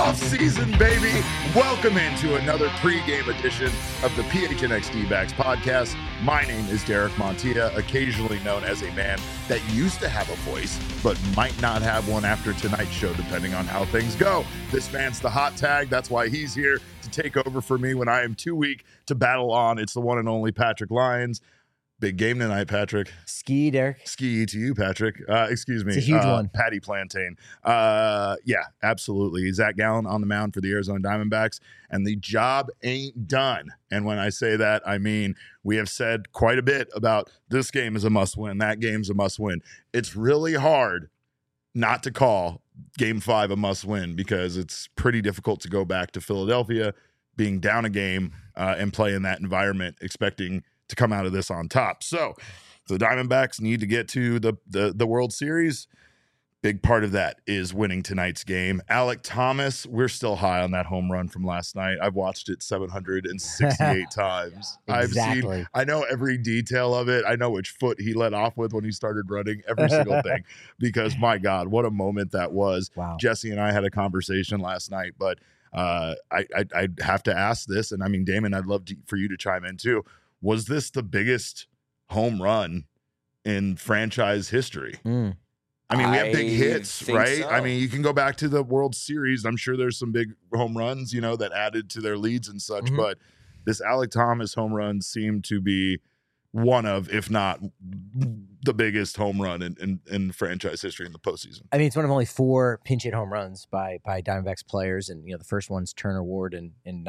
off season, baby. Welcome into another pregame edition of the PHNX D-Backs podcast. My name is Derek Montilla, occasionally known as a man that used to have a voice, but might not have one after tonight's show, depending on how things go. This man's the hot tag. That's why he's here to take over for me when I am too weak to battle on. It's the one and only Patrick Lyons. Big game tonight, Patrick. Ski, Derek. Ski to you, Patrick. Excuse me. It's a huge one. Patty Plantain. Yeah, absolutely. Zach Gallen on the mound for the Arizona Diamondbacks, and the job ain't done. And when I say that, I mean we have said quite a bit about this game is a must-win, that game's a must-win. It's really hard not to call Game 5 a must-win because it's pretty difficult to go back to Philadelphia, being down a game, and play in that environment, expecting to come out of this on top. So the Diamondbacks need to get to the World Series. Big part of that is winning tonight's game. Alek Thomas, we're still high on that home run from last night. I've watched it 768 times. Exactly. I know every detail of it. I know which foot he let off with when he started running, every single thing, because my God, what a moment that was. Wow. Jesse and I had a conversation last night, but I'd have to ask this, and I mean, Damon, I'd love for you to chime in too. Was this the biggest home run in franchise history? I mean, we have big hits, right? So. I mean, you can go back to the World Series. I'm sure there's some big home runs, that added to their leads and such. Mm-hmm. But this Alek Thomas home run seemed to be one of, if not the biggest home run in franchise history in the postseason. I mean, it's one of only 4 pinch hit home runs by Diamondbacks players. And, the first one's Turner Ward in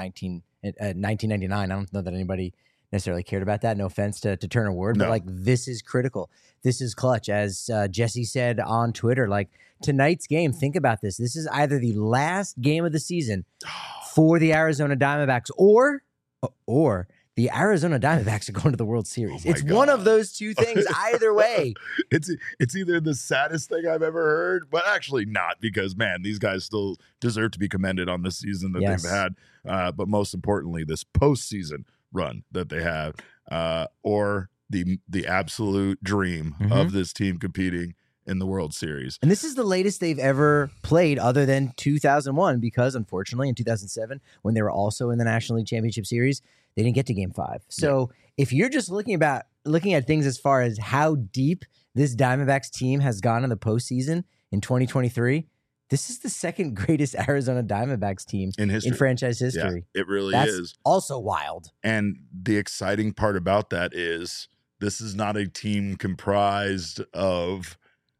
1999. I don't know that anybody necessarily cared about that. No offense to Turner Ward, but this is critical. This is clutch. As Jesse said on Twitter, tonight's game, think about this. This is either the last game of the season for the Arizona Diamondbacks or the Arizona Diamondbacks are going to the World Series. It's God. one of those two things either way. It's either the saddest thing I've ever heard, but actually not, because, man, these guys still deserve to be commended on this season that they've had. But most importantly, this postseason run that they have, or the absolute dream of this team competing in the World Series. And this is the latest they've ever played other than 2001, because unfortunately in 2007, when they were also in the National League Championship Series, they didn't get to Game 5. So if you're just looking at things as far as how deep this Diamondbacks team has gone in the postseason in 2023, this is the second greatest Arizona Diamondbacks team in franchise history. Yeah, it really That's is. Also wild. And the exciting part about that is this is not a team comprised of,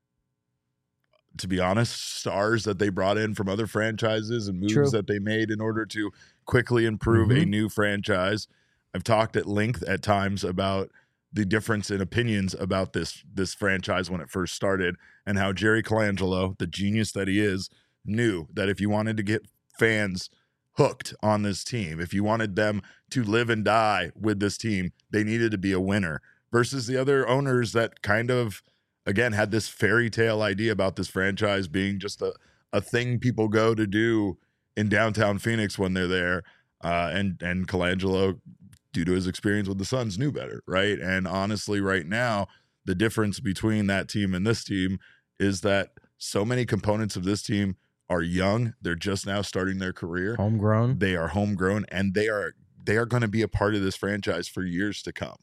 to be honest, stars that they brought in from other franchises and moves that they made in order to quickly improve a new franchise. I've talked at length at times about the difference in opinions about this franchise when it first started, and how Jerry Colangelo, the genius that he is, knew that if you wanted to get fans hooked on this team, if you wanted them to live and die with this team, they needed to be a winner, versus the other owners that kind of, again, had this fairy tale idea about this franchise being just a thing people go to do in downtown Phoenix when they're there. And Colangelo, due to his experience with the Suns, knew better, right? And honestly, right now, the difference between that team and this team is that so many components of this team are young. They're just now starting their career. Homegrown. They are homegrown, and they are going to be a part of this franchise for years to come.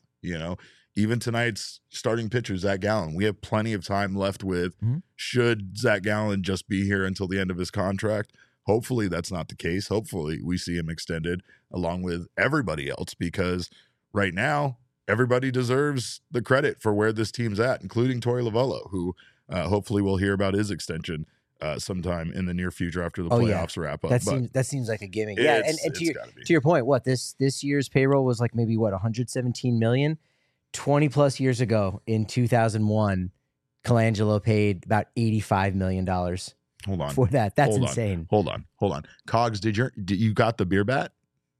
Even tonight's starting pitcher, Zach Gallen, we have plenty of time left with. Should Zach Gallen just be here until the end of his contract? Hopefully that's not the case. Hopefully we see him extended along with everybody else, because right now everybody deserves the credit for where this team's at, including Torey Lovullo, who hopefully we'll hear about his extension sometime in the near future after the playoffs wrap up. That seems like a gimmick. Yeah, and to your point, this year's payroll was maybe 117 million. 20 plus years ago in 2001, Colangelo paid about $85 million. Hold on. For that. That's insane. Hold on. Cogs, did you got the beer bat?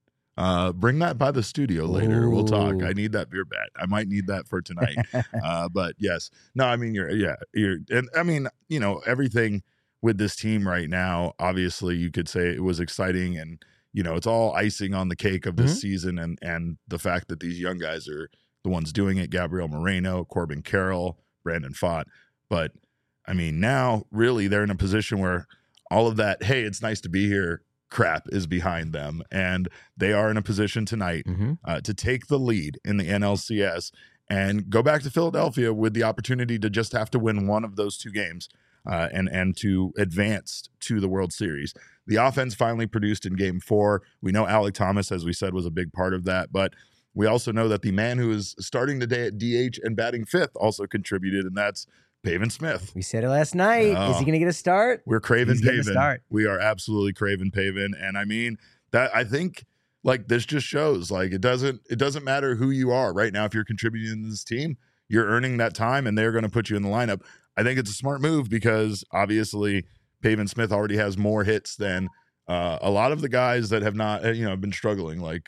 Bring that by the studio later. We'll talk. I need that beer bat. I might need that for tonight. But yes. No, I mean, and I mean, everything with this team right now, obviously you could say it was exciting, and, it's all icing on the cake of this season. And the fact that these young guys are the ones doing it, Gabriel Moreno, Corbin Carroll, Brandon Pfaadt. But I mean, now really they're in a position where all of that, hey, it's nice to be here crap is behind them. And they are in a position tonight to take the lead in the NLCS and go back to Philadelphia with the opportunity to just have to win one of those 2 games and to advance to the World Series. The offense finally produced in Game 4. We know Alek Thomas, as we said, was a big part of that, but we also know that the man who is starting today at DH and batting 5th also contributed, and that's Pavin Smith. We said it last night. Is he going to get a start? We're craving Pavin. We are absolutely craving Pavin. And I mean, that I think like this just shows like it doesn't matter who you are right now. If you're contributing to this team, you're earning that time and they're going to put you in the lineup. I think it's a smart move because obviously Pavin Smith already has more hits than a lot of the guys that have not, been struggling like,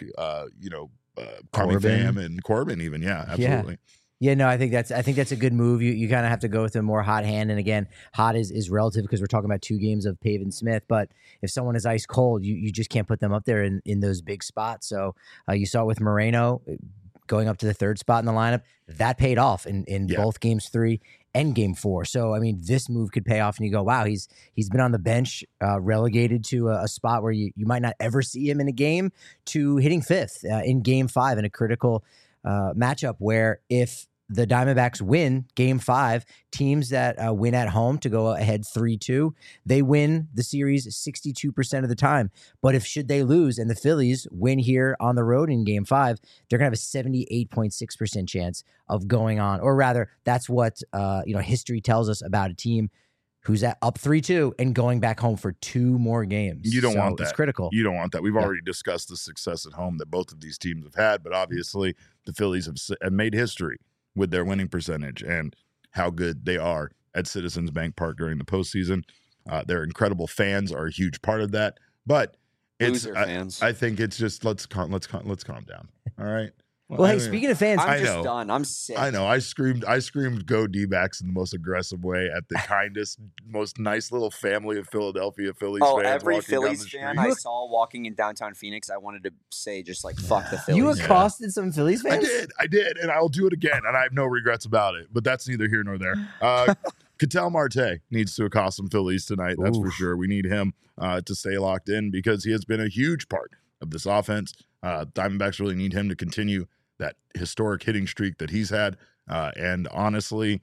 Tommy Pham and Corbin even. Yeah, absolutely. Yeah, no, I think that's a good move. You kind of have to go with a more hot hand, and again, hot is relative because we're talking about 2 games of Pavin Smith. But if someone is ice cold, you just can't put them up there in those big spots. So you saw it with Moreno going up to the 3rd spot in the lineup. That paid off in both games 3 and Game 4. So I mean, this move could pay off, and you go, wow, he's been on the bench, relegated to a spot where you might not ever see him in a game, to hitting 5th in Game 5 in a critical matchup where if the Diamondbacks win Game 5, teams that win at home to go ahead 3-2, they win the series 62% of the time. But should they lose and the Phillies win here on the road in Game 5, they're going to have a 78.6% chance of going on. Or rather, that's what history tells us about a team who's up 3-2 and going back home for 2 more games. You don't want that. It's critical. You don't want that. We've already discussed the success at home that both of these teams have had, but obviously the Phillies have made history with their winning percentage and how good they are at Citizens Bank Park during the postseason. Their incredible fans are a huge part of that, but fans. I think it's just let's calm down. All right. Well, hey, speaking of fans, I'm just done. I'm sick. I know. I screamed "Go D-backs" in the most aggressive way at the kindest, most nice little family of Philadelphia Phillies fans. Every Phillies fan I saw walking in downtown Phoenix, I wanted to say just like "fuck the Phillies." You accosted some Phillies fans? I did, and I'll do it again, and I have no regrets about it. But that's neither here nor there. Ketel Marte needs to accost some Phillies tonight. That's for sure. We need him to stay locked in because he has been a huge part of this offense. Diamondbacks really need him to continue that historic hitting streak that he's had. And honestly,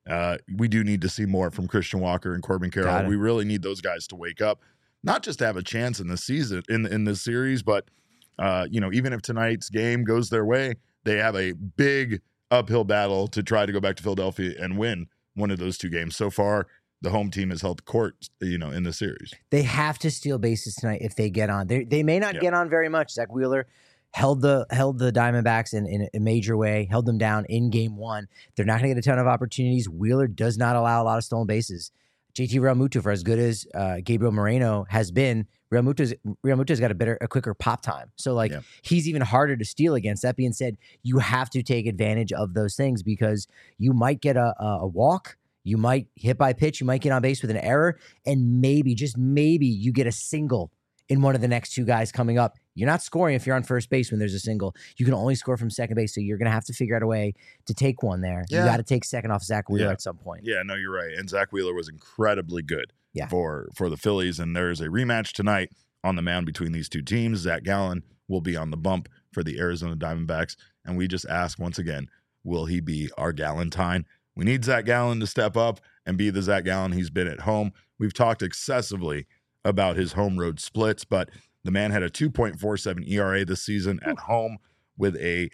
we do need to see more from Christian Walker and Corbin Carroll. We really need those guys to wake up, not just to have a chance in the season, in this series, but even if tonight's game goes their way, they have a big uphill battle to try to go back to Philadelphia and win one of those 2 games. So far, the home team has held court, in the series. They have to steal bases tonight if they get on. They may not get on very much. Zach Wheeler held the Diamondbacks in a major way, held them down in Game 1. They're not going to get a ton of opportunities. Wheeler does not allow a lot of stolen bases. JT Realmuto, for as good as Gabriel Moreno has been, Realmuto's got a quicker pop time. So he's even harder to steal against. That being said, you have to take advantage of those things because you might get a walk, you might hit by pitch, you might get on base with an error, and maybe, just maybe, you get a single in one of the next 2 guys coming up. You're not scoring if you're on first base when there's a single. You can only score from second base, so you're going to have to figure out a way to take one there. You got to take second off Zach Wheeler at some point. Yeah, no, you're right. And Zach Wheeler was incredibly good for the Phillies, and there's a rematch tonight on the mound between these 2 teams. Zach Gallen will be on the bump for the Arizona Diamondbacks, and we just ask once again, will he be our Galentine? We need Zach Gallen to step up and be the Zach Gallen he's been at home. We've talked excessively about his home road splits, but the man had a 2.47 ERA this season at home with a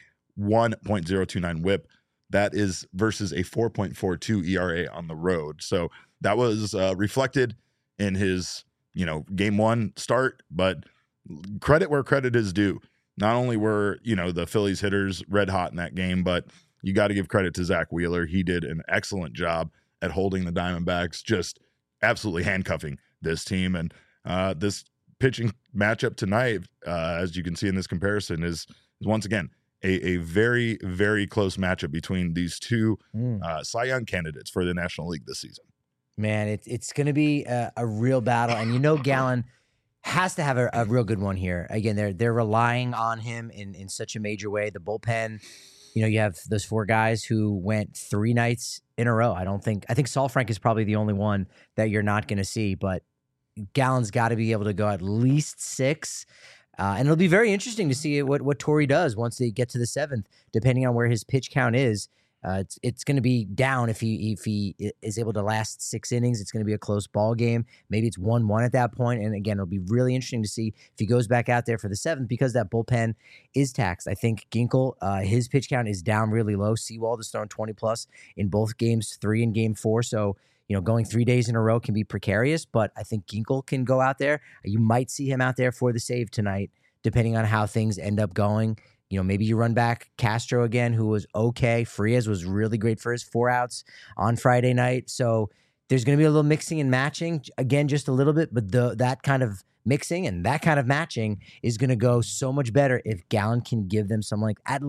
1.029 whip. That is versus a 4.42 ERA on the road. So that was reflected in his, Game 1 start, but credit where credit is due. Not only were, the Phillies hitters red hot in that game, but you got to give credit to Zach Wheeler. He did an excellent job at holding the Diamondbacks, just absolutely handcuffing this team. And this pitching matchup tonight, as you can see in this comparison, is once again a very, very close matchup between these 2 Cy Young candidates for the National League this season. Man, it's going to be a real battle. And Gallen has to have a real good one here. Again, they're relying on him in such a major way. The bullpen, you have those 4 guys who went 3 nights in a row. I think Saul Frank is probably the only one that you're not going to see, but Gallen's got to be able to go at least 6. And it'll be very interesting to see what Torrey does once they get to the 7th, depending on where his pitch count is. It's going to be down if he is able to last 6 innings. It's going to be a close ball game. Maybe it's 1-1 at that point. And again, it'll be really interesting to see if he goes back out there for the 7th because that bullpen is taxed. I think Ginkel, his pitch count is down really low. Sewald is throwing 20+ in both games 3 and game 4. So, going 3 days in a row can be precarious, but I think Ginkel can go out there. You might see him out there for the save tonight, depending on how things end up going. Maybe you run back Castro again, who was okay. Frias was really great for his 4 outs on Friday night. So there's going to be a little mixing and matching, again, just a little bit, but that kind of mixing and that kind of matching is going to go so much better if Gallen can give them some, like, at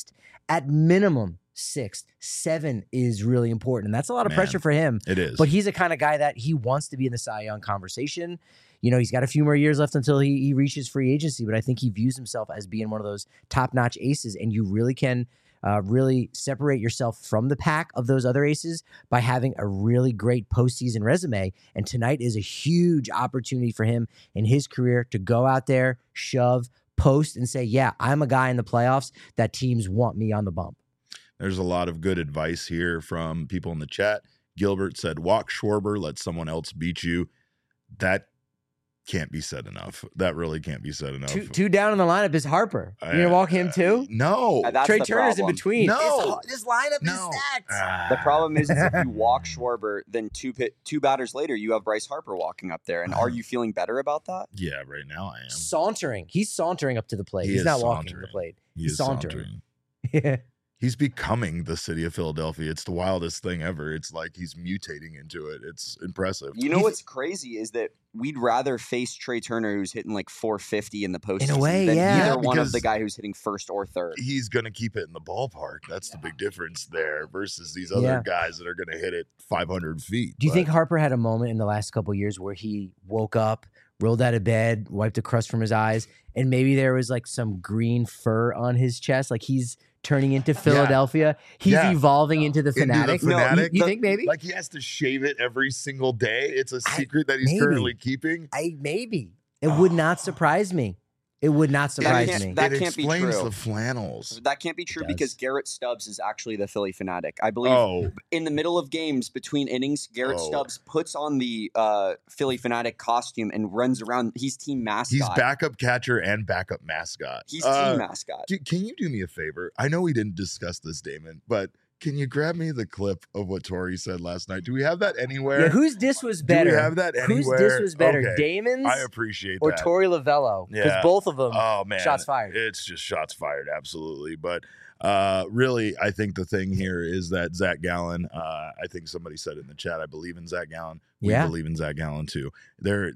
minimum 6. 7 is really important. And that's a lot of pressure for him. It is. But he's the kind of guy that he wants to be in the Cy Young conversation. He's got a few more years left until he reaches free agency, but I think he views himself as being one of those top-notch aces, and you really can really separate yourself from the pack of those other aces by having a really great postseason resume. And tonight is a huge opportunity for him in his career to go out there, shove, post, and say, yeah, I'm a guy in the playoffs that teams want me on the bump. There's a lot of good advice here from people in the chat. Gilbert said, walk Schwarber, let someone else beat you. That can't be said enough. That really can't be said enough. Two down in the lineup is Harper. You're going to walk him too? No. Trey Turner's in between. No. This lineup is stacked. The problem is if you walk Schwarber, then two batters later, you have Bryce Harper walking up there. And are you feeling better about that? Yeah, right now I am. Sauntering. He's sauntering up to the plate. He's not walking to the plate. He's sauntering. Yeah. He's becoming the city of Philadelphia. It's the wildest thing ever. It's like he's mutating into it. It's impressive. What's crazy is that we'd rather face Trey Turner, who's hitting like 450 in the postseason, in a way, than yeah, either one of the guy who's hitting first or third. He's going to keep it in the ballpark. That's the big difference there versus these other guys that are going to hit it 500 feet. Do you think Harper had a moment in the last couple of years where he woke up, rolled out of bed, wiped the crust from his eyes, and maybe there was like some green fur on his chest, like he's turning into Philadelphia? He's evolving into the Fanatic. No, you think maybe? Like he has to shave it every single day. It's a secret that he's currently keeping. Maybe. It would not surprise me. It would not surprise me. That can't be true. The flannels. That can't be true because Garrett Stubbs is actually the Philly Fanatic. I believe in the middle of games between innings, Garrett Stubbs puts on the Philly Fanatic costume and runs around. He's team mascot. He's backup catcher and backup mascot. He's team mascot. Can you do me a favor? I know we didn't discuss this, Damon, but can you grab me the clip of what Torrey said last night? Do we have that anywhere? Yeah, whose diss was better? Do we have that anywhere? Whose diss was better, Okay. Damon's? I appreciate or that. Torrey Lavello? Because both of them, shots fired. It's just shots fired, absolutely. But really, I think the thing here is that Zach Gallen, I think somebody said in the chat, I believe in Zach Gallen. We believe in Zach Gallen too. There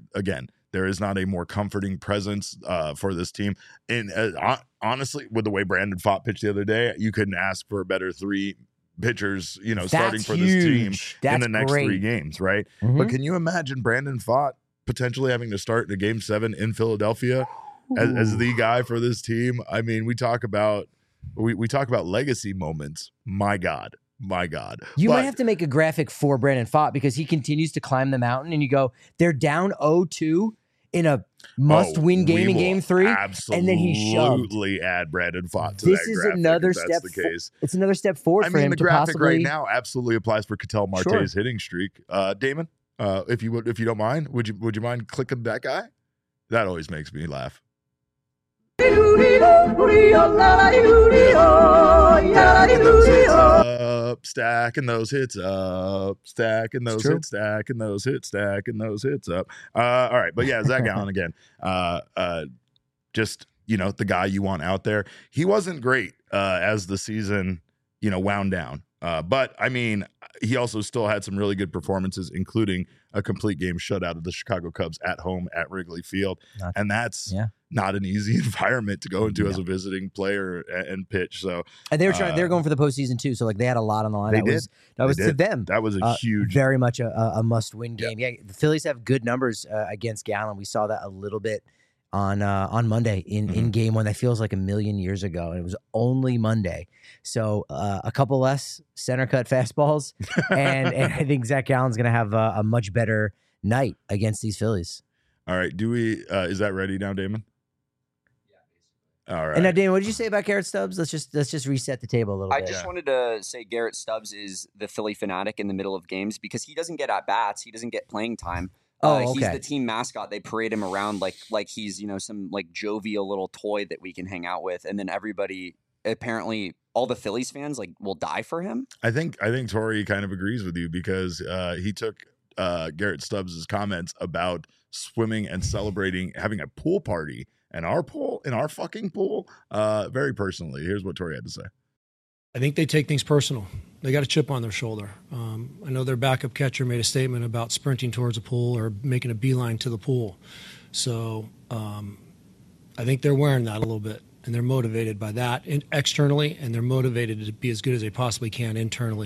is not a more comforting presence for this team. And honestly, with the way Brandon Pfaadt pitched the other day, you couldn't ask for a better 3 pitchers, starting for this team in the next 3 games, right? Mm-hmm. But can you imagine Brandon Pfaadt potentially having to start in a Game 7 in Philadelphia as the guy for this team? I mean, we talk about legacy moments. My God. You might have to make a graphic for Brandon Pfaadt because he continues to climb the mountain, and you go, they're down 0-2 in a must-win game in Game 3, and then he shoved. Absolutely add Brandon Pfaadt to this that is graphic. Another if step. That's the case. It's another step forward for him the to graphic possibly right now absolutely applies for Ketel Marte's hitting streak. Damon, if you don't mind, would you mind clicking that guy? That always makes me laugh. Stacking those hits up, stacking those hits, stacking those hits, stacking those hits up. All right, but yeah, Zach Gallen again. Just the guy you want out there. He wasn't great as the season wound down. But I mean, he also still had some really good performances, including a complete game shutout of the Chicago Cubs at home at Wrigley Field. And that's not an easy environment to go into as a visiting player and pitch. So, and they were going for the postseason too. So like they had a lot on the line. That was to them. That was a huge, very much a must-win game. Yeah, the Phillies have good numbers against Gallen. We saw that a little bit on Monday in Game 1. That feels like a million years ago, and it was only Monday. So a couple less center cut fastballs, and I think Zach Gallen's going to have a much better night against these Phillies. All right. Do we? Is that ready now, Damon? All right. And now, Damon, what did you say about Garrett Stubbs? Let's just reset the table a little bit. I just wanted to say Garrett Stubbs is the Philly fanatic in the middle of games because he doesn't get at bats. He doesn't get playing time. Okay. He's the team mascot. They parade him around like he's some like jovial little toy that we can hang out with, and then everybody, apparently all the Phillies fans, will die for him. I think Tori kind of agrees with you because he took Garrett Stubbs' comments about swimming and celebrating having a pool party in our fucking pool very personally. Here's what Tori had to say. I think they take things personal. They got a chip on their shoulder. I know their backup catcher made a statement about sprinting towards a pool or making a beeline to the pool. So I think they're wearing that a little bit, and they're motivated by that externally, and they're motivated to be as good as they possibly can internally.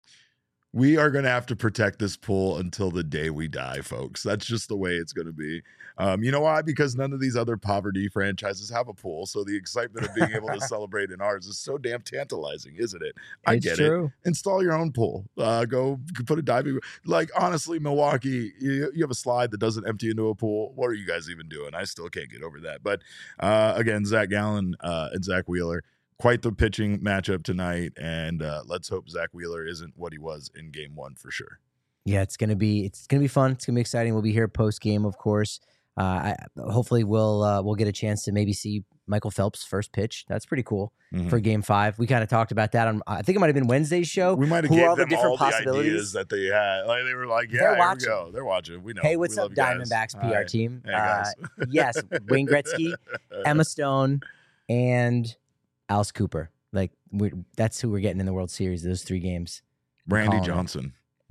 We are going to have to protect this pool until the day we die, folks. That's just the way it's going to be. You know why? Because none of these other poverty franchises have a pool. So the excitement of being able to celebrate in ours is so damn tantalizing, isn't it? I get it. Install your own pool. Go put a diving. Honestly, Milwaukee, you have a slide that doesn't empty into a pool. What are you guys even doing? I still can't get over that. But again, Zach Gallen and Zach Wheeler. Quite the pitching matchup tonight, and let's hope Zach Wheeler isn't what he was in Game 1 for sure. Yeah, it's gonna be fun. It's gonna be exciting. We'll be here post game, of course. Hopefully, we'll get a chance to maybe see Michael Phelps' first pitch. That's pretty cool for Game 5. We kind of talked about that on. I think it might have been Wednesday's show. We might have gave them all the ideas that they had. They were like, "Yeah, here we go. They're watching. We know." Hey, what's up, Diamondbacks PR team? Hey, yes, Wayne Gretzky, Emma Stone, and Alice Cooper. That's who we're getting in the World Series, those 3 games. Randy Johnson.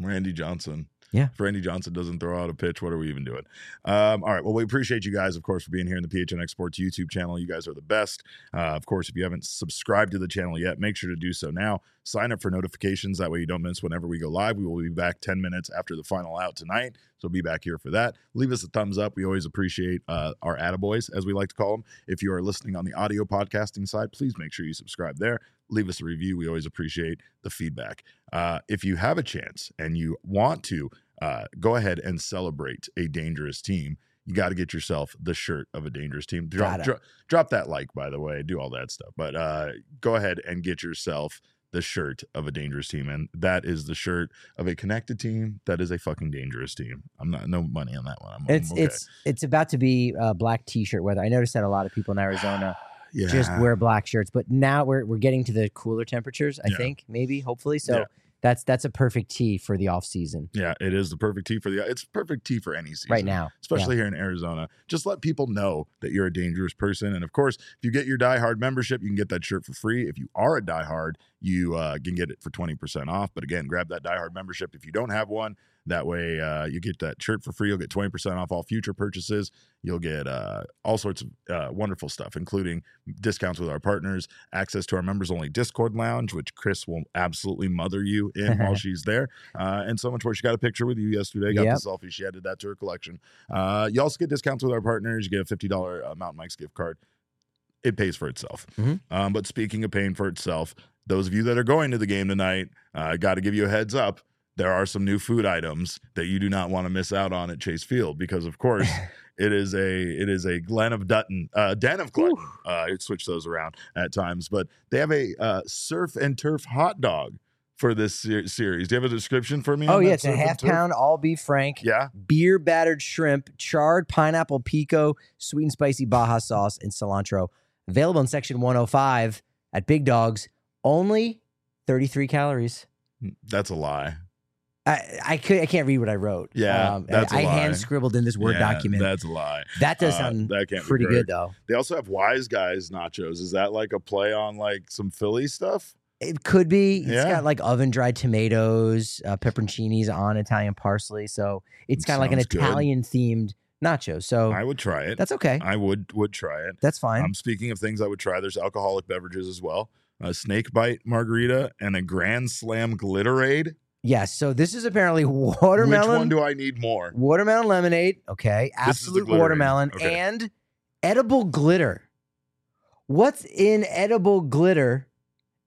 Yeah. If Randy Johnson doesn't throw out a pitch, what are we even doing? All right. Well, we appreciate you guys, of course, for being here in the PHNX Sports YouTube channel. You guys are the best. Of course, if you haven't subscribed to the channel yet, make sure to do so now. Sign up for notifications. That way you don't miss whenever we go live. We will be back 10 minutes after the final out tonight. So be back here for that. Leave us a thumbs up. We always appreciate our attaboys, as we like to call them. If you are listening on the audio podcasting side, please make sure you subscribe there. Leave us a review. We always appreciate the feedback. If you have a chance and you want to go ahead and celebrate a dangerous team, you got to get yourself the shirt of a dangerous team. Drop that like, by the way, do all that stuff. But go ahead and get yourself the shirt of a dangerous team. And that is the shirt of a connected team that is a fucking dangerous team. No money on that one. It's about to be black t-shirt weather. I noticed that a lot of people in Arizona just wear black shirts, but now we're getting to the cooler temperatures, I think, maybe, hopefully. So that's a perfect tee for the off season. Yeah, it is the perfect tee it's perfect tee for any season right now, especially here in Arizona. Just let people know that you're a dangerous person. And of course, if you get your Die Hard membership, you can get that shirt for free. If you are a Die Hard, you can get it for 20% off. But again, grab that Die Hard membership if you don't have one. That way you get that shirt for free. You'll get 20% off all future purchases. You'll get all sorts of wonderful stuff, including discounts with our partners, access to our members-only Discord lounge, which Chris will absolutely mother you in while she's there, and so much more. She got a picture with you yesterday, got the selfie. She added that to her collection. You also get discounts with our partners. You get a $50 Mountain Mike's gift card. It pays for itself. But speaking of paying for itself, those of you that are going to the game tonight, got to give you a heads up. There are some new food items that you do not want to miss out on at Chase Field because, of course, it is a Den of Glutton. Switch those around at times, but they have a surf and turf hot dog for this series. Do you have a description for me? Oh yeah, it's a half-pound all beef frank. Yeah, beer battered shrimp, charred pineapple pico, sweet and spicy Baja sauce, and cilantro. Available in section 105 at Big Dogs. Only 33 calories. That's a lie. I can't read what I wrote. Yeah, that's a lie. I hand scribbled in this Word document. That's a lie. That does sound pretty good, though. They also have Wise Guys nachos. Is that like a play on like some Philly stuff? It could be. It's got like oven-dried tomatoes, pepperoncinis on Italian parsley. So it's kind of like an Italian-themed nacho. So I would try it. That's okay. I would try it. That's fine. Speaking of things I would try, there's alcoholic beverages as well. A snake bite margarita and a Grand Slam Glitterade. Yes, so this is apparently watermelon. Which one do I need more? Watermelon lemonade, okay. Absolute watermelon, and edible glitter. What's in edible glitter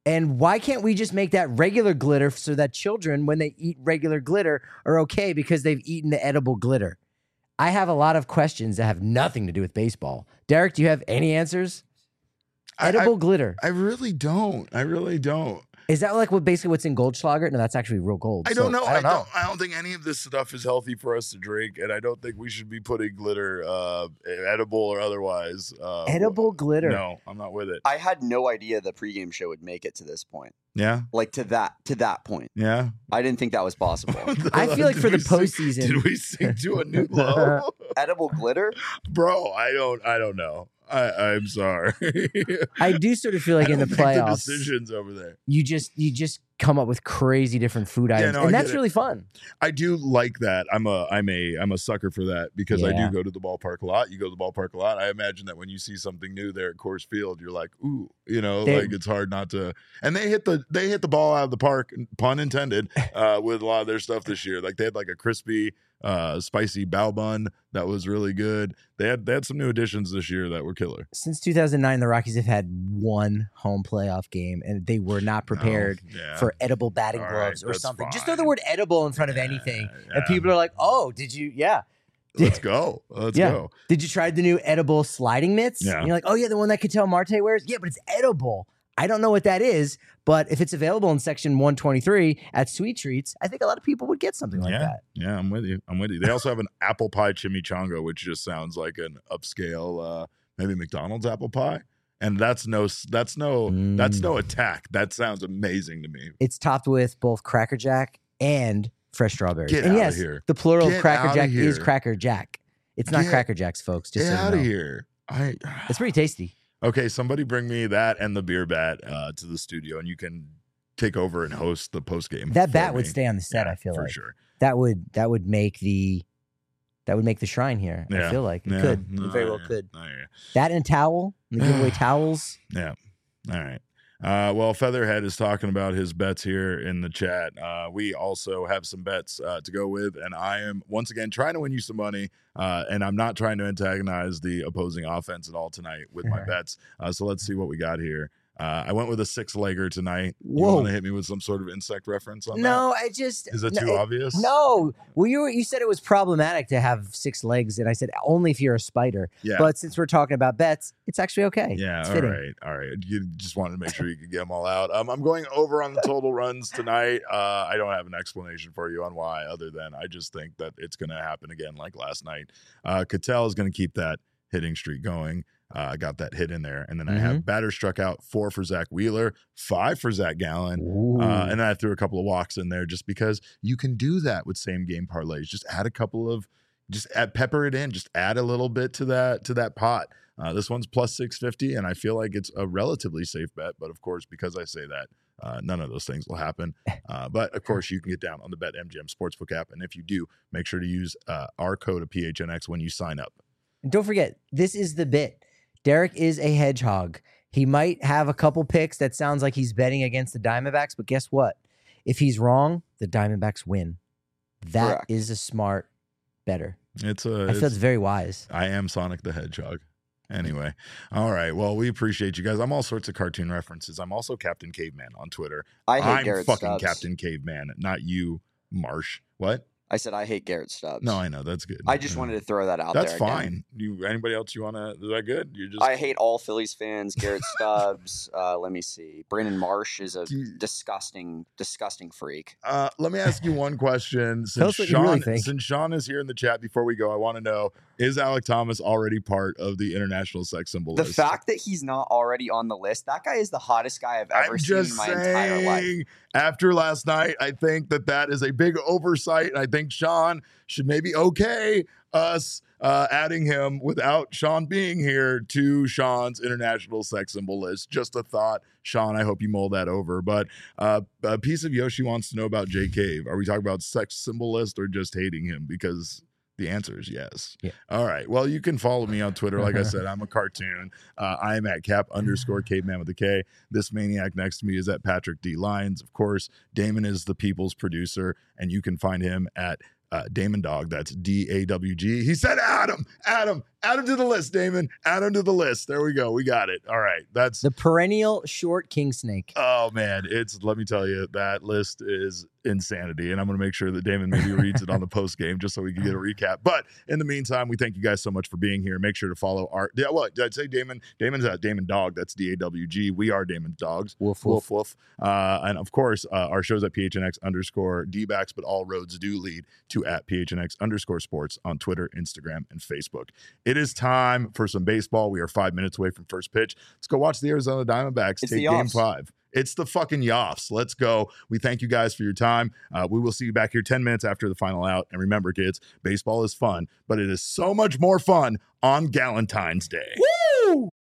And why can't we just make that regular glitter so that children, when they eat regular glitter, are okay because they've eaten the edible glitter? I have a lot of questions that have nothing to do with baseball. Derek, do you have any answers? Edible glitter. I really don't. Is that like basically what's in Goldschlager? No, that's actually real gold. I don't know. I don't think any of this stuff is healthy for us to drink, and I don't think we should be putting glitter, edible or otherwise. Edible glitter. No, I'm not with it. I had no idea the pregame show would make it to this point. Yeah, like to that point. Yeah, I didn't think that was possible. I feel like for the postseason, did we sink to a new low? Edible glitter, bro. I don't know. I'm sorry. I do sort of feel like in the playoffs, the decisions over there, you just come up with crazy different food items, and that's really fun. I do like that. I'm a sucker for that because I do go to the ballpark a lot. You go to the ballpark a lot. I imagine that when you see something new there at Coors Field, you're like, ooh, like it's hard not to. And they hit the ball out of the park, pun intended, with a lot of their stuff this year. Like they had like a crispy, spicy bao bun that was really good. They had some new additions this year that were killer. Since 2009, the Rockies have had one home playoff game, and they were not prepared for edible batting gloves or something. Fine. Just throw the word edible in front of anything, and people are like, "Oh, did you?" Yeah. Let's go. Let's go. Did you try the new edible sliding mitts? Yeah. And you're like, "Oh yeah, the one that Ketel Marte wears." Yeah, but it's edible. I don't know what that is, but if it's available in section 123 at Sweet Treats, I think a lot of people would get something like that. Yeah, I'm with you. They also have an apple pie chimichanga, which just sounds like an upscale, maybe McDonald's apple pie. And that's no attack. That sounds amazing to me. It's topped with both Cracker Jack and fresh strawberries. Get out of here. The plural of Cracker Jack is Cracker Jack. It's not Cracker Jacks, folks. Just get out of here. It's pretty tasty. Okay, somebody bring me that and the beer bat to the studio, and you can take over and host the post game. That bat would stay on the set. I feel like for sure. That would make the shrine here. I feel like it could. It very well could. That and a towel, and the giveaway towels. Yeah. All right. Well, Featherhead is talking about his bets here in the chat. We also have some bets to go with, and I am once again trying to win you some money, and I'm not trying to antagonize the opposing offense at all tonight with my bets. So let's see what we got here. I went with a 6-legger tonight. Whoa. You want to hit me with some sort of insect reference on that? No, Is that too obvious? No. Well, you said it was problematic to have 6 legs, and I said only if you're a spider. Yeah. But since we're talking about bets, it's actually okay. Yeah, it's all right. You just wanted to make sure you could get them all out. I'm going over on the total runs tonight. I don't have an explanation for you on why, other than I just think that it's going to happen again like last night. Ketel is going to keep that hitting streak going. I got that hit in there. And then I have batter struck out 4 for Zach Wheeler, 5 for Zach Gallen. And then I threw a couple of walks in there just because you can do that with same game parlays. Just add a couple of, pepper it in, just add a little bit to that pot. This one's plus 650, and I feel like it's a relatively safe bet. But of course, because I say that, none of those things will happen. But of course, you can get down on the BetMGM Sportsbook app. And if you do, make sure to use our code of PHNX when you sign up. And don't forget, this is the bit. Derek is a hedgehog. He might have a couple picks that sounds like he's betting against the Diamondbacks, but guess what? If he's wrong, the Diamondbacks win. That is a smart better. I feel it's very wise. I am Sonic the Hedgehog. Anyway, all right. Well, we appreciate you guys. I'm all sorts of cartoon references. I'm also Captain Caveman on Twitter. I'm Garrett fucking Stubbs. Captain Caveman, not you, Marsh. What? I said I hate Garrett Stubbs. No, I know. That's good. I just wanted to throw that out That's there. That's fine. Anybody else you want to? Is that good? I hate all Phillies fans. Garrett Stubbs. Let me see. Brandon Marsh is a disgusting freak. Let me ask you one question. Since Sean is here in the chat before we go, I want to know, is Alek Thomas already part of the international sex symbol list? The fact that he's not already on the list, that guy is the hottest guy I've ever seen in my entire life. After last night, I think that is a big oversight, and I think Sean should maybe us adding him without Sean being here to Sean's international sex symbol list. Just a thought. Sean, I hope you mull that over. But a piece of Yoshi wants to know about Jay Cave. Are we talking about sex symbol list or just hating him? Because the answer is yes. Yeah. All right. Well, you can follow me on Twitter. Like I said, I'm a cartoon. I am at Cap_Caveman with a K. This maniac next to me is at Patrick D. Lyons. Of course, Damon is the people's producer, and you can find him at Damon Dog. That's DAWG. He said Adam. Add him to the list, Damon. Add him to the list. There we go. We got it. All right. That's the perennial short king snake. Oh man, let me tell you, that list is insanity. And I'm going to make sure that Damon maybe reads it on the post game just so we can get a recap. But in the meantime, we thank you guys so much for being here. Make sure to follow what did I say, Damon? Damon's at Damon Dog. That's DAWG. We are Damon's Dogs. Woof, woof. Woof, woof. And of course, our show's at PHNX_DBacks, but all roads do lead to at PHNX_sports on Twitter, Instagram, and Facebook. It is time for some baseball. We are 5 minutes away from first pitch. Let's go watch the Arizona Diamondbacks take game 5. It's the fucking Yoffs. Let's go. We thank you guys for your time. We will see you back here 10 minutes after the final out. And remember, kids, baseball is fun, but it is so much more fun on Galentine's Day. Woo!